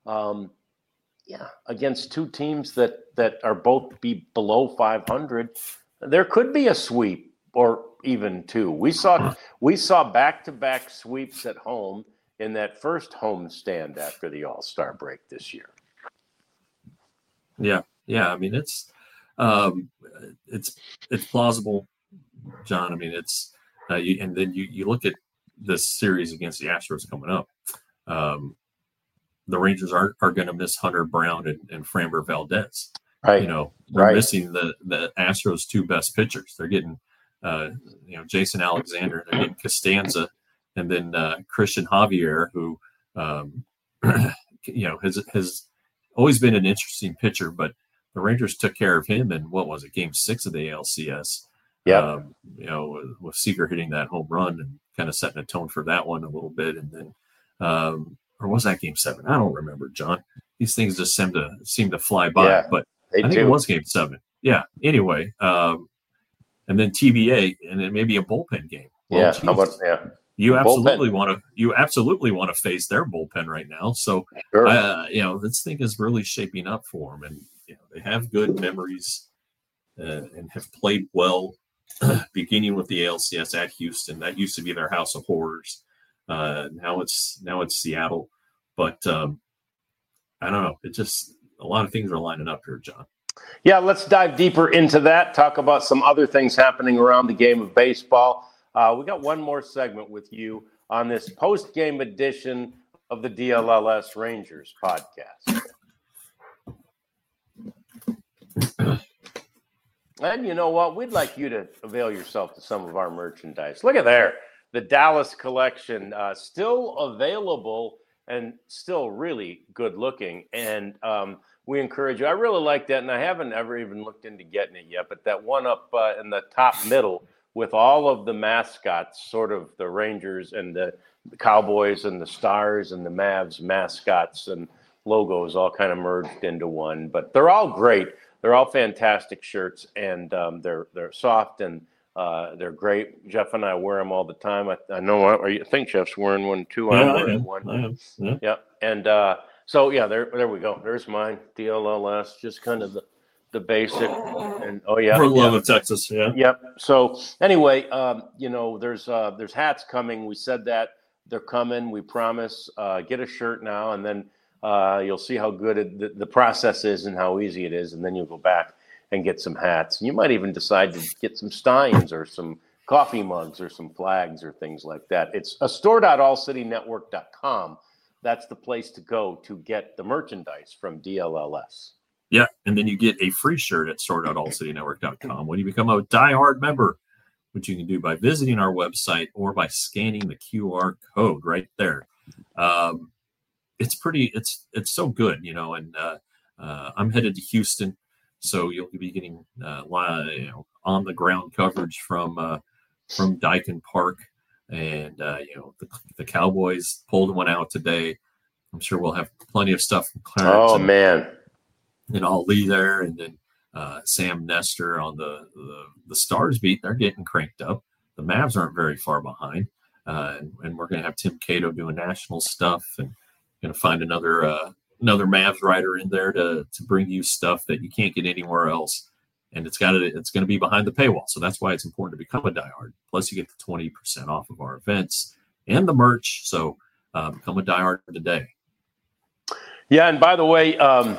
against 2 teams that are both be below 500, there could be a sweep or even 2. We saw back-to-back sweeps at home in that first home stand after the All-Star break this year. Yeah. I mean, it's plausible, John. I mean, it's and then you look at this series against the Astros coming up. The Rangers are going to miss Hunter Brown and Framber Valdez. Right. They're missing the Astros' 2 best pitchers. They're getting Jason Alexander. They're getting Costanza. And then Christian Javier, who has always been an interesting pitcher, but the Rangers took care of him in Game 6 of the ALCS. Yeah. With Seager hitting that home run and kind of setting a tone for that one a little bit, and then or was that Game 7? I don't remember, John. These things just seem to fly by, but I think it was Game 7. Yeah. Anyway, and then TBA, and then maybe a bullpen game. Well, how about You absolutely want to face their bullpen right now. So, sure. This thing is really shaping up for them, and They have good memories and have played well, beginning with the ALCS at Houston. That used to be their house of horrors. Now it's Seattle, but I don't know. It just a lot of things are lining up here, John. Yeah, let's dive deeper into that. Talk about some other things happening around the game of baseball. We got one more segment with you on this post-game edition of the DLLS Rangers podcast. And you know what? We'd like you to avail yourself to some of our merchandise. Look at there. The Dallas collection, still available and still really good looking. And we encourage you. I really like that. And I haven't ever even looked into getting it yet. But that one up in the top middle with all of the mascots, sort of the Rangers and the Cowboys and the Stars and the Mavs mascots and logos all kind of merged into one. But they're all great. They're all fantastic shirts, and they're soft and they're great. Jeff and I wear them all the time. I know. I think Jeff's wearing one too. I'm wearing one. I am. Yeah. Yeah. And so yeah, there we go. There's mine. DLLS, just kind of the basic. And oh yeah, for the love of Texas. Yeah. Yep. So anyway, there's hats coming. We said that they're coming. We promise. Get a shirt now, and then. You'll see how good the process is and how easy it is, and then you'll go back and get some hats. And you might even decide to get some steins or some coffee mugs or some flags or things like that. It's a store.allcitynetwork.com. That's the place to go to get the merchandise from DLLS. Yeah, and then you get a free shirt at store.allcitynetwork.com when you become a diehard member, which you can do by visiting our website or by scanning the QR code right there. It's so good, and I'm headed to Houston, so you'll be getting on the ground coverage from Daikin Park, and the Cowboys pulled one out today. I'm sure we'll have plenty of stuff from Clarence. Oh man, and Ali there, and then Sam Nestor on the Stars beat. They're getting cranked up. The Mavs aren't very far behind, and we're going to have Tim Cato doing national stuff and. Going to find another Mavs writer in there to bring you stuff that you can't get anywhere else, and it's going to be behind the paywall. So that's why it's important to become a diehard. Plus, you get the 20% off of our events and the merch. So become a diehard today. Yeah, and by the way,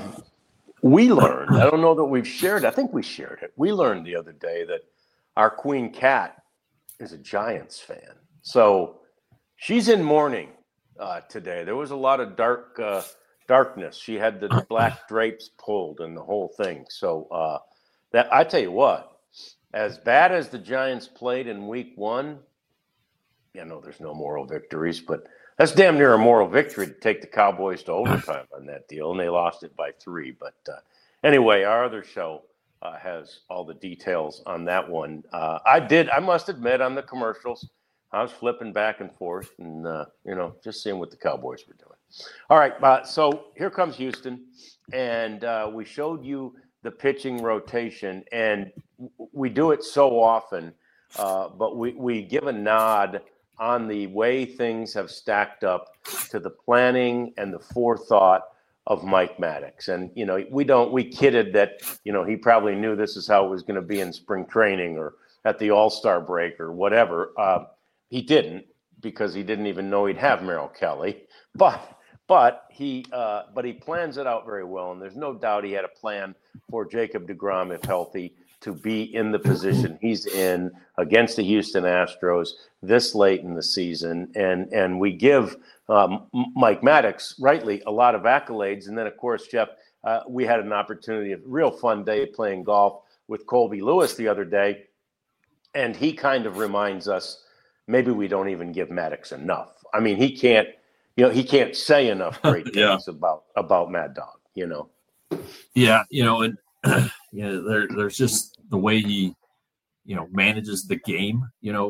we learned. I don't know that we've shared. I think we shared it. We learned the other day that our Queen Cat is a Giants fan. So she's in mourning. Today there was a lot of darkness. She had the black drapes pulled and the whole thing. So that I tell you what, as bad as the Giants played in week 1, there's no moral victories, but that's damn near a moral victory to take the Cowboys to overtime on that deal, and they lost it by 3. But anyway, our other show has all the details on that one. I must admit, on the commercials, I was flipping back and forth and, just seeing what the Cowboys were doing. All right, so here comes Houston, and we showed you the pitching rotation, and we do it so often, but we give a nod on the way things have stacked up to the planning and the forethought of Mike Maddox. And, we kidded that, he probably knew this is how it was going to be in spring training or at the All-Star break or whatever. He didn't, because he didn't even know he'd have Merrill Kelly, but he plans it out very well, and there's no doubt he had a plan for Jacob deGrom, if healthy, to be in the position he's in against the Houston Astros this late in the season, and we give Mike Maddox rightly a lot of accolades, and then of course, Jeff, we had an opportunity, a real fun day playing golf with Colby Lewis the other day, and he kind of reminds us. Maybe we don't even give Maddox enough. I mean, he can't say enough great things about Mad Dog, Yeah, and there's just the way he, manages the game.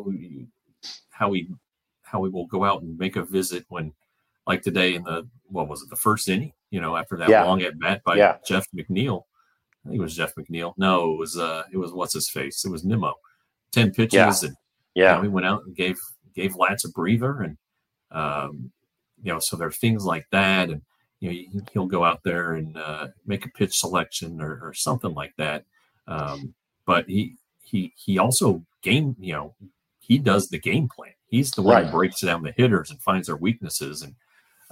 How he will go out and make a visit when, like today in the first inning, after that long at bat by Jeff McNeil. I think it was Jeff McNeil. No, it was what's his face. It was Nimmo. 10 pitches and. Yeah, we went out and gave Lance a breather, and so there are things like that, and he'll go out there and make a pitch selection or something like that. But he also he does the game plan. He's the one who breaks down the hitters and finds their weaknesses. And,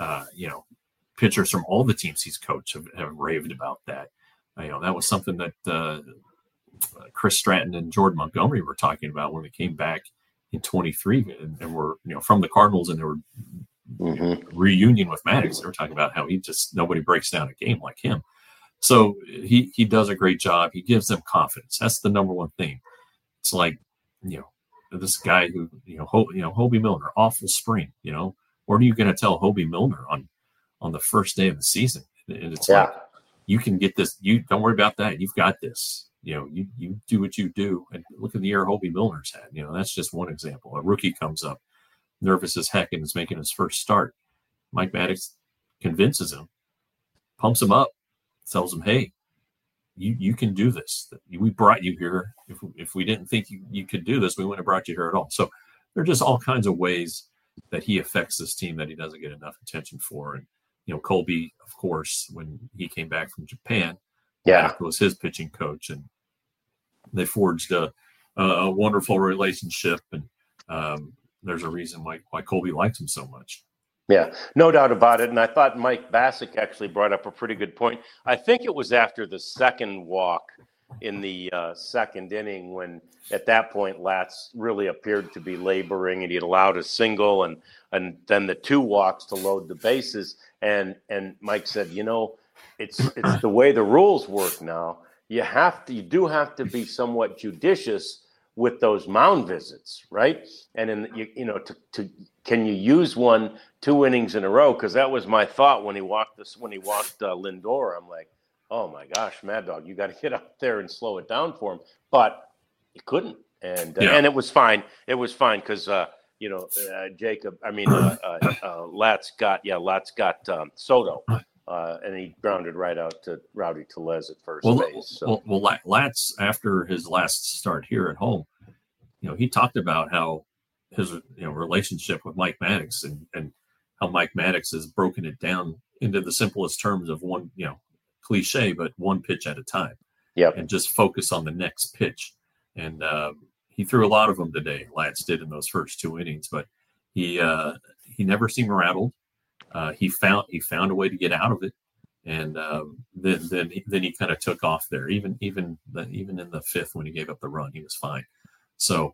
pitchers from all the teams he's coached have raved about that. That was something that Chris Stratton and Jordan Montgomery were talking about when they came back in 23 and were, from the Cardinals, and they were reunion with Maddox. They were talking about how nobody breaks down a game like him. So he does a great job. He gives them confidence. That's the number one thing. It's like, this guy who, Hobie Milner, awful spring, what are you going to tell Hobie Milner on the first day of the season? And it's like, you can get this. You don't worry about that. You've got this. You do what you do. And look at the year Hobie Milner's had. That's just one example. A rookie comes up, nervous as heck, and is making his first start. Mike Maddox convinces him, pumps him up, tells him, hey, you can do this. We brought you here. If we didn't think you could do this, we wouldn't have brought you here at all. So there are just all kinds of ways that he affects this team that he doesn't get enough attention for. And, Colby, of course, when he came back from Japan, Maddox was his pitching coach, and they forged a wonderful relationship. And there's a reason why Colby likes him so much. Yeah, no doubt about it. And I thought Mike Bassick actually brought up a pretty good point. I think it was after the second walk in the second inning when, at that point, Latz really appeared to be laboring, and he had allowed a single and then the two walks to load the bases. And Mike said, it's the way the rules work now. You do have to be somewhat judicious with those mound visits, right? And can you use 2 innings in a row? Because that was my thought when he walked Lindor. I'm like, oh my gosh, Mad Dog, you got to get out there and slow it down for him. But he couldn't, and it was fine. It was fine because Latz got Soto. And he grounded right out to Rowdy Tellez at first base. So. Well, Latz, after his last start here at home, he talked about how his relationship with Mike Maddox and how Mike Maddox has broken it down into the simplest terms of one, cliche, but one pitch at a time. Yep. And just focus on the next pitch. And he threw a lot of them today. Latz did in those first 2 innings, but he never seemed rattled. He found a way to get out of it, and then he kind of took off there. Even in the 5th when he gave up the run, he was fine. So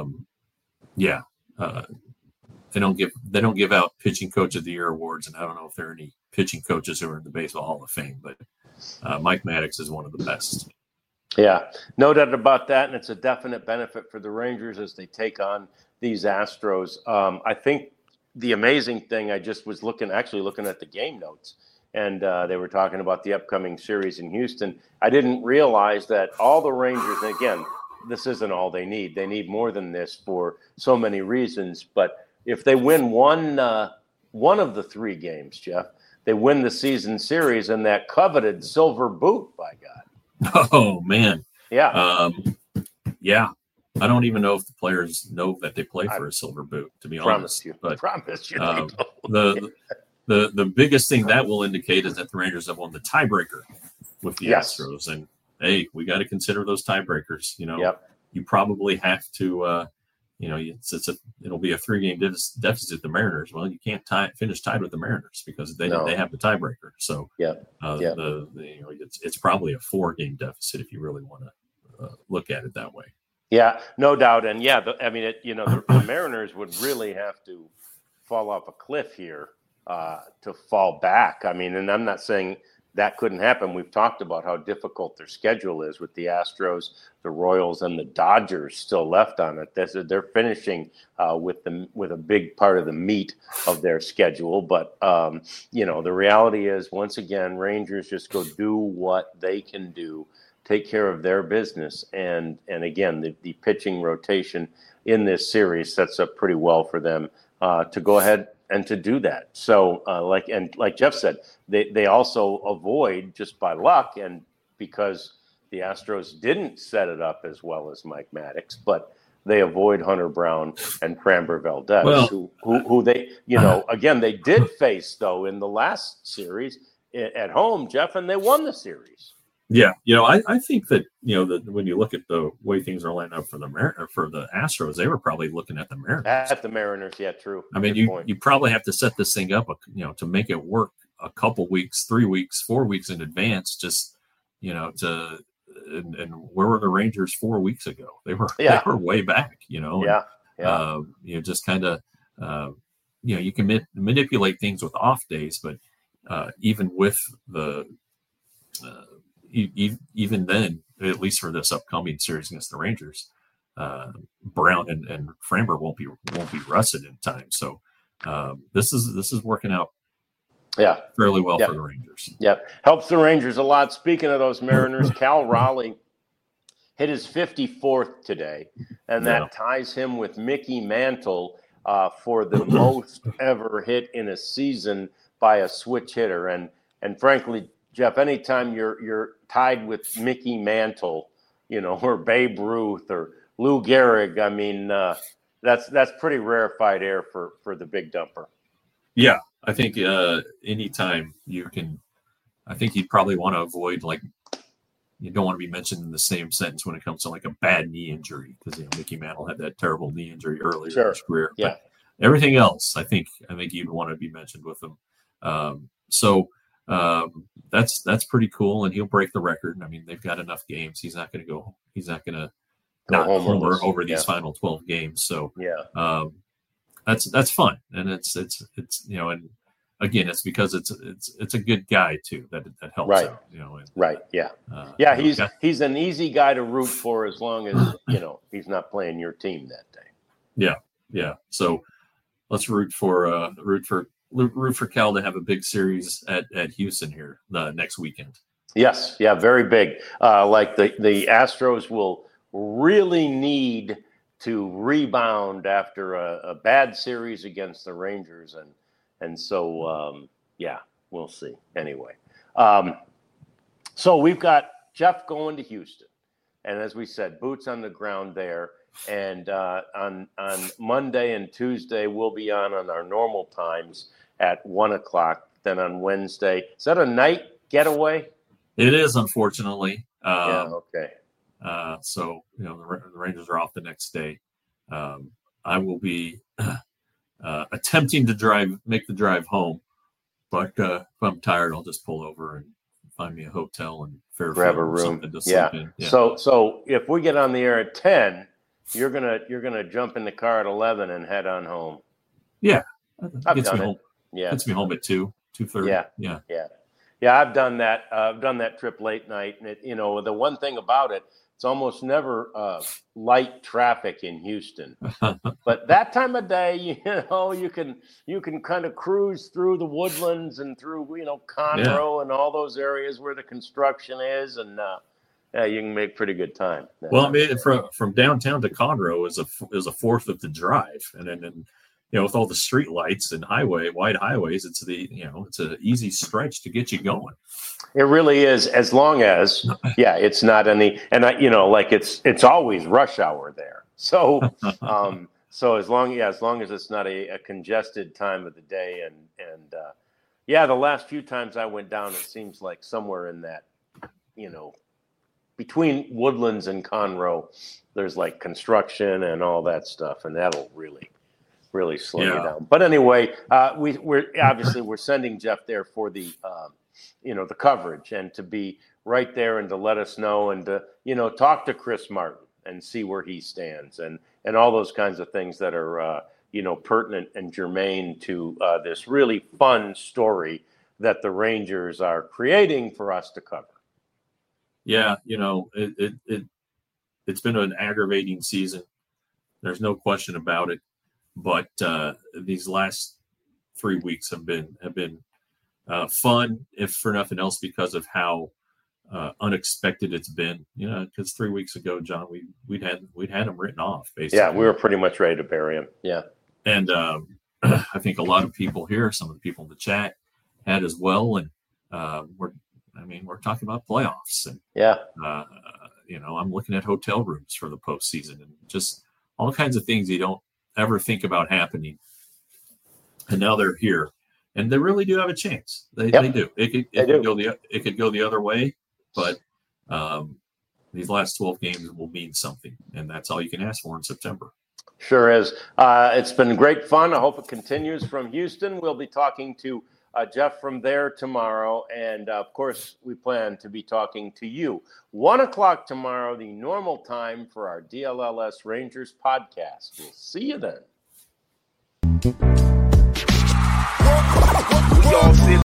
they don't give out pitching coach of the year awards, and I don't know if there are any pitching coaches who are in the Baseball Hall of Fame, but Mike Maddox is one of the best. Yeah, no doubt about that, and it's a definite benefit for the Rangers as they take on these Astros. I think. The amazing thing, I just was looking at the game notes, and they were talking about the upcoming series in Houston. I didn't realize that all the Rangers, and again, this isn't all they need. They need more than this for so many reasons. But if they win one of the 3 games, Jeff, they win the season series and that coveted silver boot, by God. Oh, man. Yeah. Yeah. I don't even know if the players know that they play for a silver boot, to be honest. But promise you. The biggest thing that will indicate is that the Rangers have won the tiebreaker with the Astros. And, hey, we got to consider those tiebreakers. You probably have to, it'll be a 3-game deficit the Mariners. Well, you can't finish tied with the Mariners because they have the tiebreaker. So it's probably a 4-game deficit if you really want to look at it that way. Yeah, no doubt. And the Mariners would really have to fall off a cliff here to fall back. And I'm not saying that couldn't happen. We've talked about how difficult their schedule is with the Astros, the Royals, and the Dodgers still left on it. They're finishing with a big part of the meat of their schedule. But, the reality is, once again, Rangers just go do what they can do. Take care of their business, and again, the pitching rotation in this series sets up pretty well for them to go ahead and to do that. So, like Jeff said, they also avoid, just by luck and because the Astros didn't set it up as well as Mike Maddox, but they avoid Hunter Brown and Framber Valdez, Well, who they, again, they did face, though, in the last series at home, Jeff, and they won the series. Yeah, I think that that when you look at the way things are lining up for the Astros, they were probably looking at the Mariners. At the Mariners, yeah, true. I mean, you probably have to set this thing up, to make it work a couple weeks, 3 weeks, 4 weeks in advance. Just and where were the Rangers 4 weeks ago? They were way back. Just kind of you can manipulate things with off days, but even with the even then, at least for this upcoming series against the Rangers, Brown and Framber won't be rusted in time. So this is working out fairly well for the Rangers. Yep. Helps the Rangers a lot. Speaking of those Mariners, Cal Raleigh hit his 54th today, and that ties him with Mickey Mantle for the most ever hit in a season by a switch hitter. And frankly, Jeff, anytime you're tied with Mickey Mantle, or Babe Ruth or Lou Gehrig, I mean, that's pretty rarefied air for the big dumper. Yeah, I think anytime you can, I think you'd probably want to avoid, you don't want to be mentioned in the same sentence when it comes to a bad knee injury, because Mickey Mantle had that terrible knee injury earlier in his career. Yeah. But everything else, I think you'd want to be mentioned with him. That's pretty cool, and he'll break the record. I mean, they've got enough games. He's not going to not homer over these final 12 games. So that's fun, and it's and again, it's because it's a good guy too that helps out. He's an easy guy to root for as long as he's not playing your team that day. Yeah. So let's root for Cal to have a big series at Houston here next weekend. Yes, very big. The Astros will really need to rebound after a bad series against the Rangers, and so we'll see. Anyway, so we've got Jeff going to Houston, and as we said, boots on the ground there. And on Monday and Tuesday, we'll be on our normal times at 1:00. Then on Wednesday, is that a night getaway? It is, unfortunately. Okay. So the Rangers are off the next day. I will be attempting to make the drive home, but if I'm tired, I'll just pull over and find me a hotel and grab a room. To sleep in. Yeah. So if we get on the air at 10, you're gonna jump in the car at 11 and head on home. Yeah, I've done it. Gets me home at 2:30. Yeah. I've done that. I've done that trip late night, and the one thing about it, it's almost never light traffic in Houston. But that time of day, you can kind of cruise through the Woodlands and through Conroe and all those areas where the construction is, and you can make pretty good time. Well, I mean, from downtown to Conroe is a fourth of the drive, and then with all the street lights and wide highways, it's an easy stretch to get you going. It really is, as long as it's not any, and it's always rush hour there. So so as long as it's not a congested time of the day, and the last few times I went down, it seems like somewhere in that between Woodlands and Conroe, there's construction and all that stuff, and that'll really slow you down. But anyway, we're sending Jeff there for the the coverage, and to be right there and to let us know, and to talk to Chris Martin and see where he stands, and all those kinds of things that are pertinent and germane to this really fun story that the Rangers are creating for us to cover. Yeah, it's been an aggravating season. There's no question about it. But these last 3 weeks have been fun, if for nothing else, because of how unexpected it's been. Because 3 weeks ago, John, we'd had him written off, basically. Yeah, we were pretty much ready to bury him. Yeah, and I think a lot of people here, some of the people in the chat, had as well. And we're talking about playoffs, and I'm looking at hotel rooms for the postseason, and just all kinds of things you don't ever think about happening. And now they're here. And they really do have a chance. They do. It could go the other way, but these last 12 games will mean something, and that's all you can ask for in September. Sure is. It's been great fun. I hope it continues from Houston. We'll be talking to Jeff from there tomorrow, and of course, we plan to be talking to you 1:00 tomorrow, the normal time for our DLLS Rangers podcast. We'll see you then.